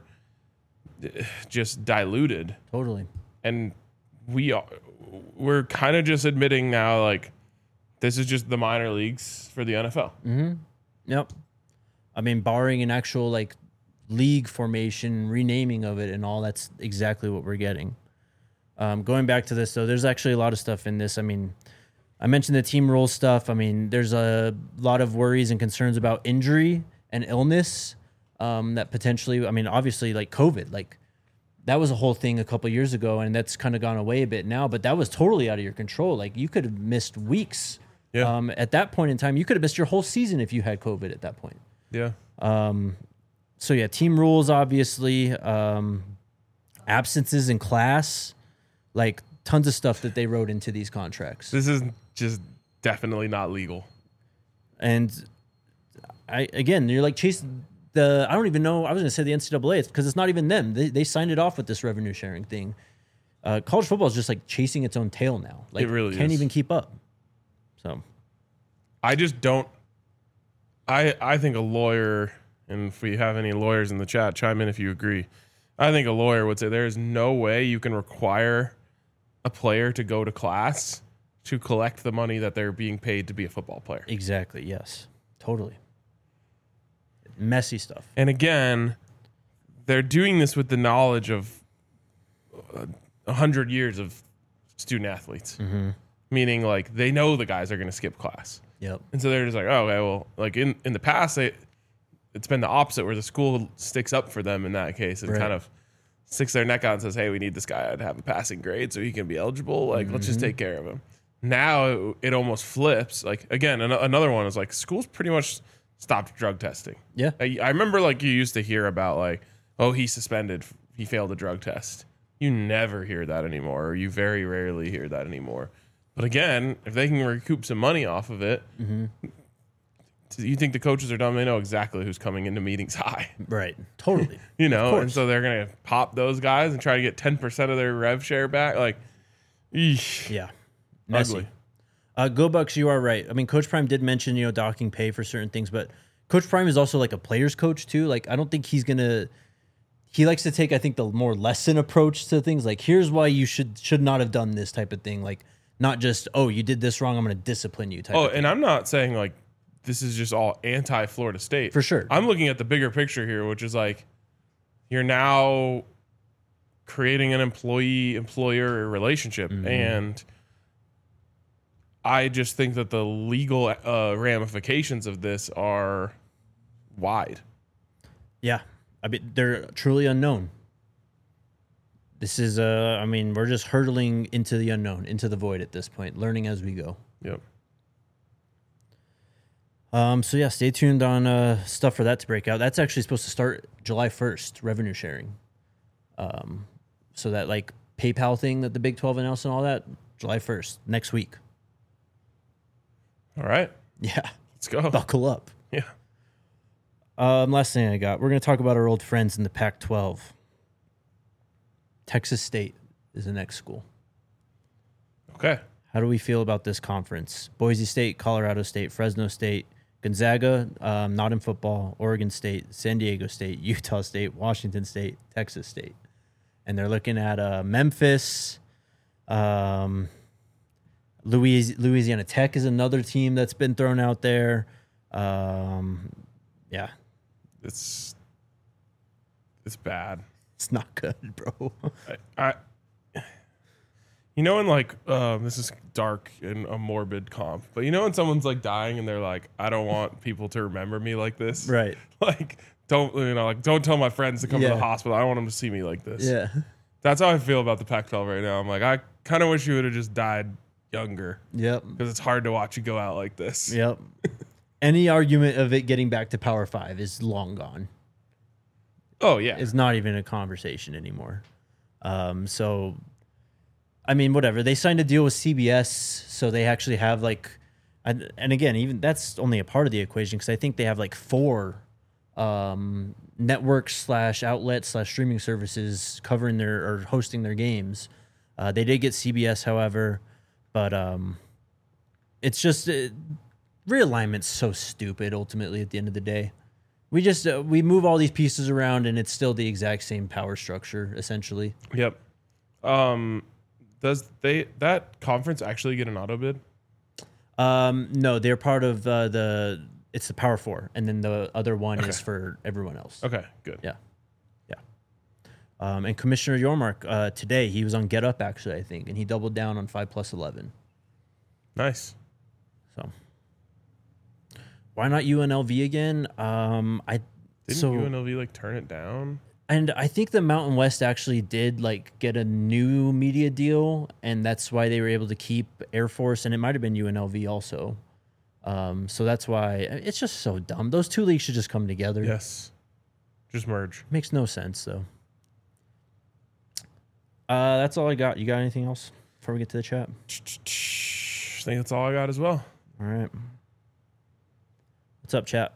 just diluted. Totally. And we are, we're kind of just admitting now, like, this is just the minor leagues for the N F L. Mm-hmm. Yep. I mean, barring an actual, like, league formation, renaming of it and all, that's exactly what we're getting. Um, going back to this, though, there's actually a lot of stuff in this. I mean, I mentioned the team rules stuff. I mean, there's a lot of worries and concerns about injury and illness um, that potentially, I mean, obviously, like COVID, like that was a whole thing a couple of years ago, and that's kind of gone away a bit now, but that was totally out of your control. Like, you could have missed weeks. Yeah. Um, at that point in time, you could have missed your whole season if you had COVID at that point. Yeah. Um, so yeah, team rules, obviously, um, absences in class, like tons of stuff that they wrote into these contracts. This is just definitely not legal. And I, again, you're like chasing the, I don't even know, I was going to say the N C double A, it's because it's not even them. They, they signed it off with this revenue sharing thing. Uh, college football is just like chasing its own tail now. Like, it really can't is. even keep up. So I just don't, I, I think a lawyer, and if we have any lawyers in the chat, chime in if you agree. I think a lawyer would say there is no way you can require a player to go to class to collect the money that they're being paid to be a football player. exactly, yes, totally. Messy stuff. And again, they're doing this with the knowledge of a hundred years of student athletes, Mm-hmm. meaning like they know the guys are going to skip class. Yep. And so they're just like, oh, okay, well, like in, in the past, they, it's been the opposite where the school sticks up for them in that case and Right. kind of sticks their neck out and says, hey, we need this guy to have a passing grade so he can be eligible. Like, let's just take care of him. Now it, it almost flips. Like, again, an- another one is like schools pretty much stopped drug testing. Yeah. I, I remember like you used to hear about like, oh, he's suspended. He failed a drug test. You never hear that anymore, or you very rarely hear that anymore. But again, if they can recoup some money off of it, Mm-hmm. you think the coaches are dumb? They know exactly who's coming into meetings high, Right. Totally. you know, course. and so they're gonna pop those guys and try to get ten percent of their rev share back. Like, eesh, Yeah. Messy. ugly. Uh, Go Bucks, you are right. I mean, Coach Prime did mention, you know, docking pay for certain things, but Coach Prime is also like a player's coach too. Like, I don't think he's gonna. He likes to take, I think, the more lesson approach to things. Like, here's why you should should not have done this type of thing. Like, not just, oh, you did this wrong, I'm going to discipline you type Oh, of thing. and I'm not saying like this is just all anti Florida State. For sure. I'm looking at the bigger picture here, which is like you're now creating an employee employer relationship. Mm-hmm. And I just think that the legal uh, ramifications of this are wide. Yeah. I mean, they're truly unknown. This is, uh, I mean, we're just hurtling into the unknown, into the void at this point, learning as we go. Yep. Um, so yeah, stay tuned on uh, stuff for that to break out. That's actually supposed to start July first, revenue sharing. Um, so that like PayPal thing that the Big twelve announced and all that, July first, next week. All right. Yeah, Let's go. buckle up. Yeah. Um, last thing I got, we're going to talk about our old friends in the Pac twelve. Texas State is the next school. Okay. How do we feel about this conference? Boise State, Colorado State, Fresno State, Gonzaga, um, not in football, Oregon State, San Diego State, Utah State, Washington State, Texas State. And they're looking at uh, Memphis. Um, Louis- Louisiana Tech is another team that's been thrown out there. Um, yeah, It's it's bad. it's not good, bro. I, I You know, in like, uh, this is dark and a morbid comp, but you know when someone's like dying and they're like, I don't want people to remember me like this? Right. Like, don't, you know, like, don't tell my friends to come Yeah. to the hospital. I don't want them to see me like this. Yeah. That's how I feel about the Pac twelve right now. I'm like, I kind of wish you would have just died younger Yep. because it's hard to watch you go out like this. Yep. Any argument of it getting back to Power Five is long gone. Oh, yeah. It's not even a conversation anymore. Um, so, I mean, whatever. They signed a deal with C B S, so they actually have like, and, and again, even that's only a part of the equation because I think they have like four um, networks slash outlets slash streaming services covering their or hosting their games. Uh, they did get C B S, however, but um, it's just uh, realignment's so stupid. Ultimately, at the end of the day, we just uh, we move all these pieces around, and it's still the exact same power structure, essentially. Yep. Um, does they that conference actually get an auto bid? Um, no, they're part of uh, the. It's the Power Four, and then the other one Okay. is for everyone else. Okay, good. Yeah, yeah. Um, and Commissioner Yormark uh, today he was on Get Up actually, I think, and he doubled down on five plus eleven. Nice. So why not U N L V again? Um, I Didn't so U N L V like turn it down? and I think the Mountain West actually did like get a new media deal, and that's why they were able to keep Air Force, and it might have been U N L V also. Um, so that's why it's just so dumb. Those two leagues should just come together. Yes. Just merge. Makes no sense though. Uh, that's all I got. You got anything else before we get to the chat? I think that's all I got as well. All right. What's up, chat?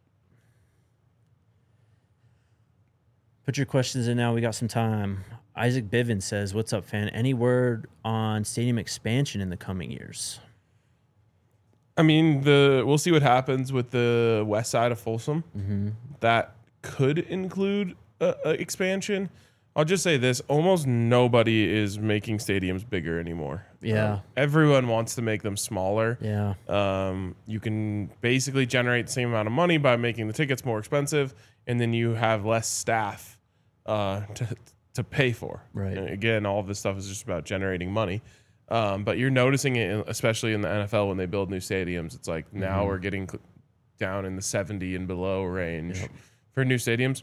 Put your questions in now. We got some time. Isaac Bivens says, "What's up, fan? Any word on stadium expansion in the coming years?" I mean, the we'll see what happens with the west side of Folsom. Mm-hmm. That could include a, a expansion. I'll just say this: almost nobody is making stadiums bigger anymore. Yeah. Um, everyone wants to make them smaller. Yeah. Um, you can basically generate the same amount of money by making the tickets more expensive, and then you have less staff uh, to to pay for. Right. And again, all of this stuff is just about generating money. Um, but you're noticing it, in, especially in the N F L, when they build new stadiums. It's like now Mhm. we're getting cl- down in the seventy and below range Yep. for new stadiums.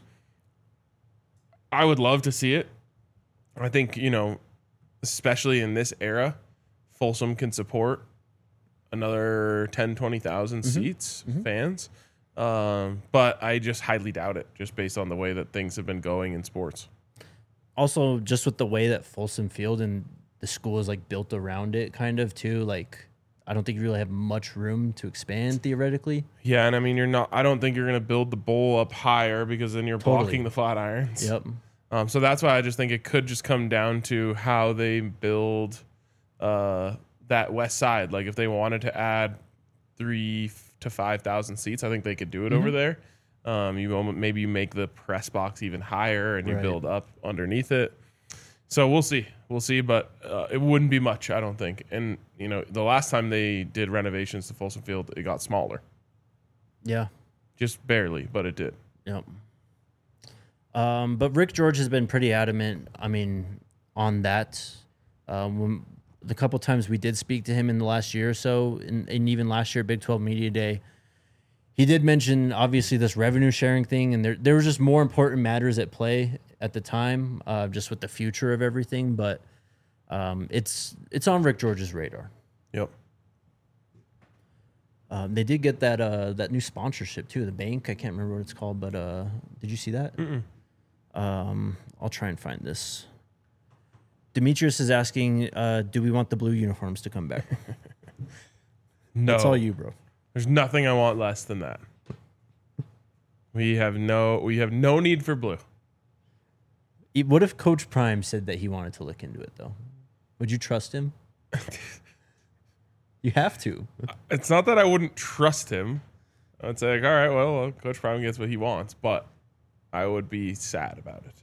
I would love to see it. I think, you know, especially in this era, Folsom can support another ten, twenty thousand Mhm. seats, Mhm. fans. Um, but I just highly doubt it, just based on the way that things have been going in sports. Also, just with the way that Folsom Field and the school is like built around it, kind of too. Like, I don't think you really have much room to expand theoretically. Yeah, and I mean, you're not. I don't think you're going to build the bowl up higher because then you're Totally. blocking the flat irons. Yep. Um, so that's why I just think it could just come down to how they build uh, that west side. Like if they wanted to add three to five thousand seats, I think they could do it Mhm. over there. Um, you almo- maybe you make the press box even higher and you Right. build up underneath it. So we'll see, we'll see, but uh, it wouldn't be much, I don't think. And you know, the last time they did renovations to Folsom Field, it got smaller, Yeah. just barely, but it did. Yep. Um, but Rick George has been pretty adamant. I mean, on that. Um, when, the couple times we did speak to him in the last year or so, and, and even last year, Big twelve Media Day, he did mention obviously this revenue sharing thing, and there there was just more important matters at play at the time, uh, just with the future of everything. But um, it's it's on Rick George's radar. Yep. Um, they did get that uh, that new sponsorship too. The bank, I can't remember what it's called, but uh, did you see that? Mm-mm. Um, I'll try and find this. Demetrius is asking, uh, do we want the blue uniforms to come back? No, That's all you, bro. There's nothing I want less than that. We have no we have no need for blue. E- What if Coach Prime said that he wanted to look into it, though? Would you trust him? You have to. It's not that I wouldn't trust him. I'd say like, all right, well, well, Coach Prime gets what he wants, but I would be sad about it.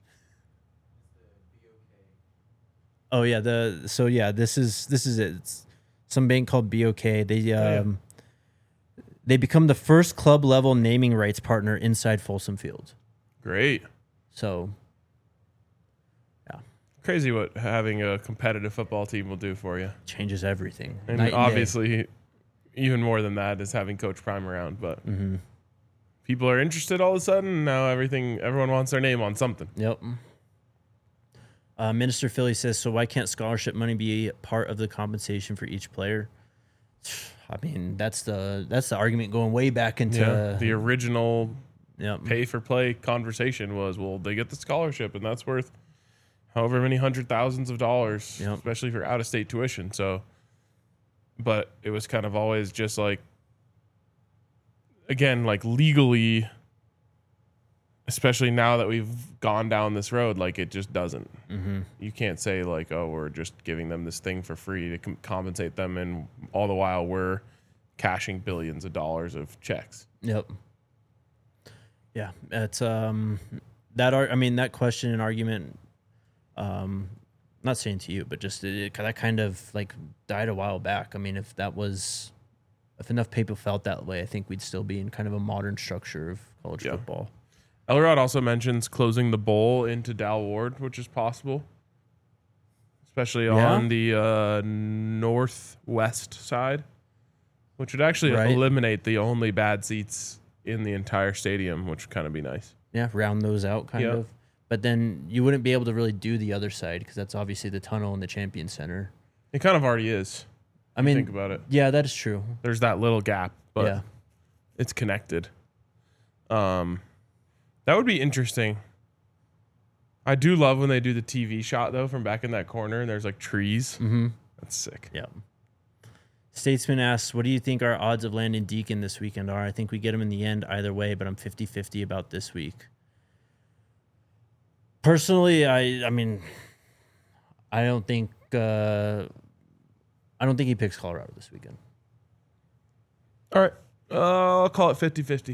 Oh yeah, the so yeah, this is this is it. It's some bank called B O K. They um yeah. they become the first club level naming rights partner inside Folsom Field. Great. So Crazy what having a competitive football team will do for you. Changes everything. And Night obviously, even more than that is having Coach Prime around. But Mm-hmm. people are interested all of a sudden. Now everything, everyone wants their name on something. Yep. Uh, Minister Philly says, so why can't scholarship money be part of the compensation for each player? I mean, that's the that's the argument going way back into Yeah, the original yep. pay for play conversation was, well, they get the scholarship, and that's worth however many hundred thousands of dollars, Yep. especially for out of state tuition. So, but it was kind of always just like, again, like legally, especially now that we've gone down this road, like it just doesn't. Mm-hmm. You can't say like, oh, we're just giving them this thing for free to com- compensate them, and all the while we're cashing billions of dollars of checks. Yep. Yeah, it's um that ar- I mean that question and argument. Um, not saying to you, but just it, it, that kind of like died a while back. I mean, if that was, if enough people felt that way, I think we'd still be in kind of a modern structure of college Yeah. football. Elrod also mentions closing the bowl into Dal Ward, which is possible, especially Yeah. on the uh, northwest side, which would actually Right. eliminate the only bad seats in the entire stadium, which would kind of be nice. Yeah, round those out kind Yep. of. But then you wouldn't be able to really do the other side because that's obviously the tunnel and the Champion Center. It kind of already is. I if you mean, think about it. yeah, that is true. There's that little gap, but yeah, it's connected. Um, that would be interesting. I do love when they do the T V shot though from back in that corner, and there's like trees. mm-hmm. That's sick. Yeah. Statesman asks, what do you think our odds of landing Deacon this weekend are? I think we get him in the end either way, but I'm fifty-fifty about this week. Personally, I I mean, I don't think uh, I don't think he picks Colorado this weekend. All right. Uh, I'll call it fifty-fifty.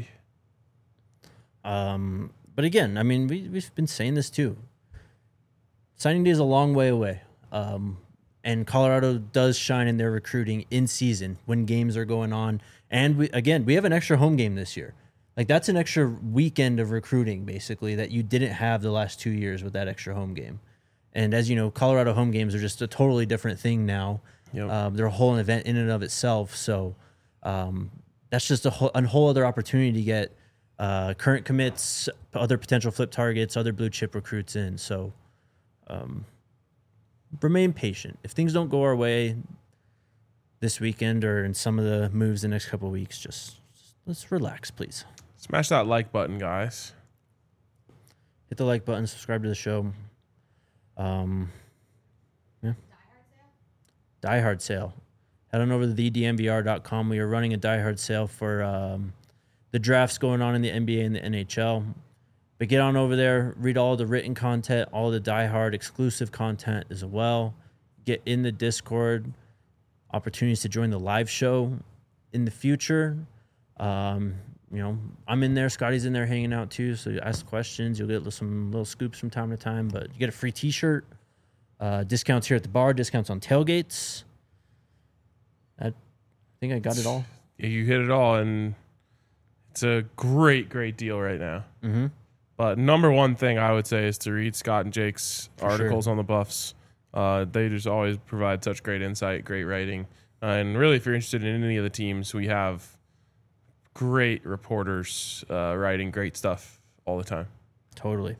Um, but again, I mean, we, we've been saying this too. Signing day is a long way away. Um, and Colorado does shine in their recruiting in season when games are going on. And we, again, we have an extra home game this year. Like that's an extra weekend of recruiting basically that you didn't have the last two years with that extra home game. And as you know, Colorado home games are just a totally different thing now. Yep. Um, they're a whole event in and of itself. So um, that's just a whole, a whole other opportunity to get uh, current commits, other potential flip targets, other blue chip recruits in. So um, remain patient. If things don't go our way this weekend or in some of the moves the next couple of weeks, just, just let's relax, please. Smash that like button, guys. Hit the like button, subscribe to the show. Um, yeah. Die Hard sale. Head on over to the d n v r dot com. We are running a Die Hard sale for um, the drafts going on in the N B A and the N H L. But get on over there, read all the written content, all the Die Hard exclusive content as well. Get in the Discord. Opportunities to join the live show in the future. Um, you know, I'm in there. Scotty's in there hanging out too. So you ask questions. You'll get some little scoops from time to time. But you get a free T-shirt. Uh, discounts here at the bar. Discounts on tailgates. I think I got it all. Yeah, you hit it all, and it's a great, great deal right now. Mm-hmm. But number one thing I would say is to read Scott and Jake's For articles sure. on the Buffs. Uh, they just always provide such great insight, great writing. Uh, and really, if you're interested in any of the teams, we have great reporters uh, writing great stuff all the time. Totally.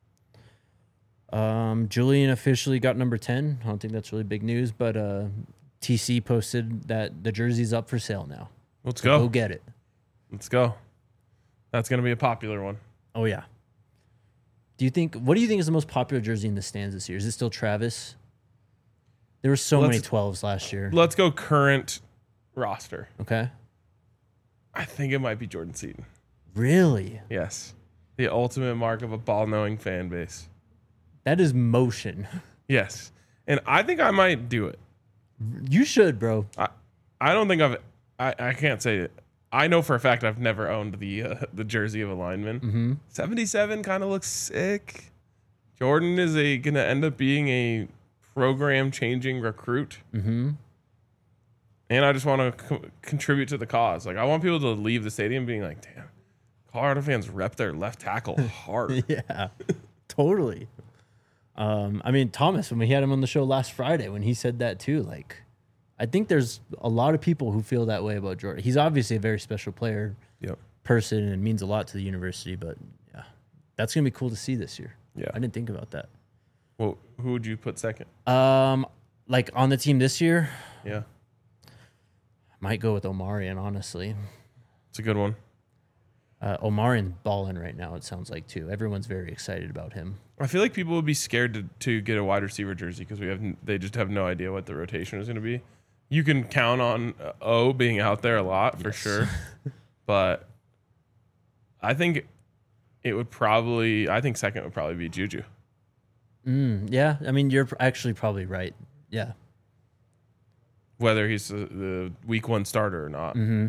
Um, Julian officially got number ten. I don't think that's really big news, but uh, T C posted that the jersey's up for sale now. Let's So go. Go get it. Let's go. That's going to be a popular one. Oh, yeah. Do you think, what do you think is the most popular jersey in the stands this year? Is it still Travis? There were so Let's- many twelves last year. Let's go current roster. Okay. I think it might be Jordan Seaton. Really? Yes. The ultimate mark of a ball-knowing fan base. That is motion. Yes. And I think I might do it. You should, bro. I, I don't think I've I, I can't say it. I know for a fact I've never owned the uh, the jersey of a lineman. Mm-hmm. seventy-seven kind of looks sick. Jordan is a gonna end up being a program changing recruit. Mm-hmm. And I just want to co- contribute to the cause. Like I want people to leave the stadium being like, "Damn, Colorado fans rep their left tackle hard." Yeah, totally. Um, I mean, Thomas, when we had him on the show last Friday, when he said that too, like, I think there's a lot of people who feel that way about Jordan. He's obviously a very special player, Yep. person, and means a lot to the university. But yeah, that's gonna be cool to see this year. Yeah. I didn't think about that. Well, who would you put second? Um, like on the team this year, Yeah. might go with Omarion. Honestly, It's a good one. uh, Omarion's balling right now. It sounds like too. Everyone's very excited about him. I feel like people would be scared to, to get a wide receiver jersey because we have n- they just have no idea what the rotation is going to be. You can count on uh, O being out there a lot for Yes. sure, but I think it would probably. I think second would probably be Juju. Mm, yeah, I mean, you're actually probably right. Yeah. Whether he's the, the week one starter or not. Mm-hmm.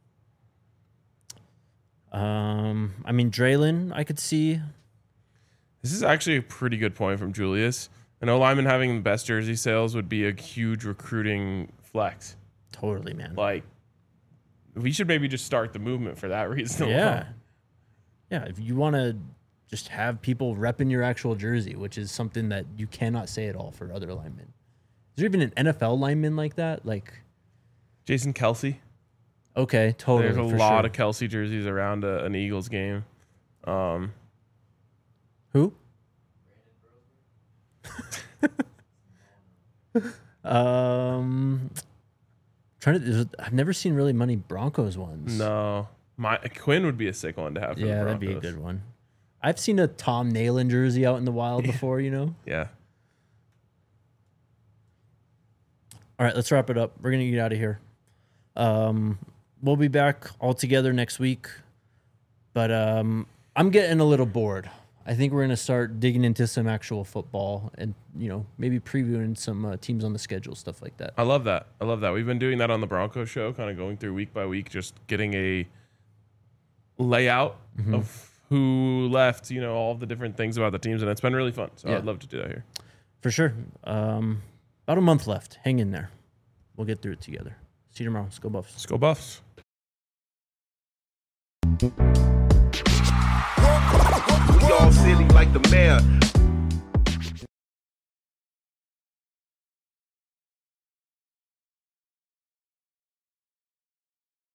Um, I mean, Draylon, I could see. This is actually a pretty good point from Julius. An O lineman having the best jersey sales would be a huge recruiting flex. Totally, man. Like, we should maybe just start the movement for that reason. Yeah. alone. Yeah, if you want to just have people repping your actual jersey, which is something that you cannot say at all for other linemen. Is there even an N F L lineman like that? Like, Jason Kelsey. okay, totally. There's a for lot sure. of Kelsey jerseys around a, an Eagles game. Um, Who? um, trying to. I've never seen really many Broncos ones. no, my Quinn would be a sick one to have. For Yeah, the that'd be a Broncos. good one. I've seen a Tom Nalen jersey out in the wild before. You know. Yeah. All right, let's wrap it up. We're gonna get out of here. Um, we'll be back all together next week, but um, I'm getting a little bored. I think we're gonna start digging into some actual football, and you know, maybe previewing some uh, teams on the schedule, stuff like that. I love that. I love that. We've been doing that on the Broncos show, kind of going through week by week, just getting a layout Mm-hmm. of who left, you know, all the different things about the teams, and it's been really fun. So Yeah. I'd love to do that here. For sure. Um, about a month left. Hang in there. We'll get through it together. See you tomorrow. Let's go Buffs. Let's go Buffs. We all silly like the mayor.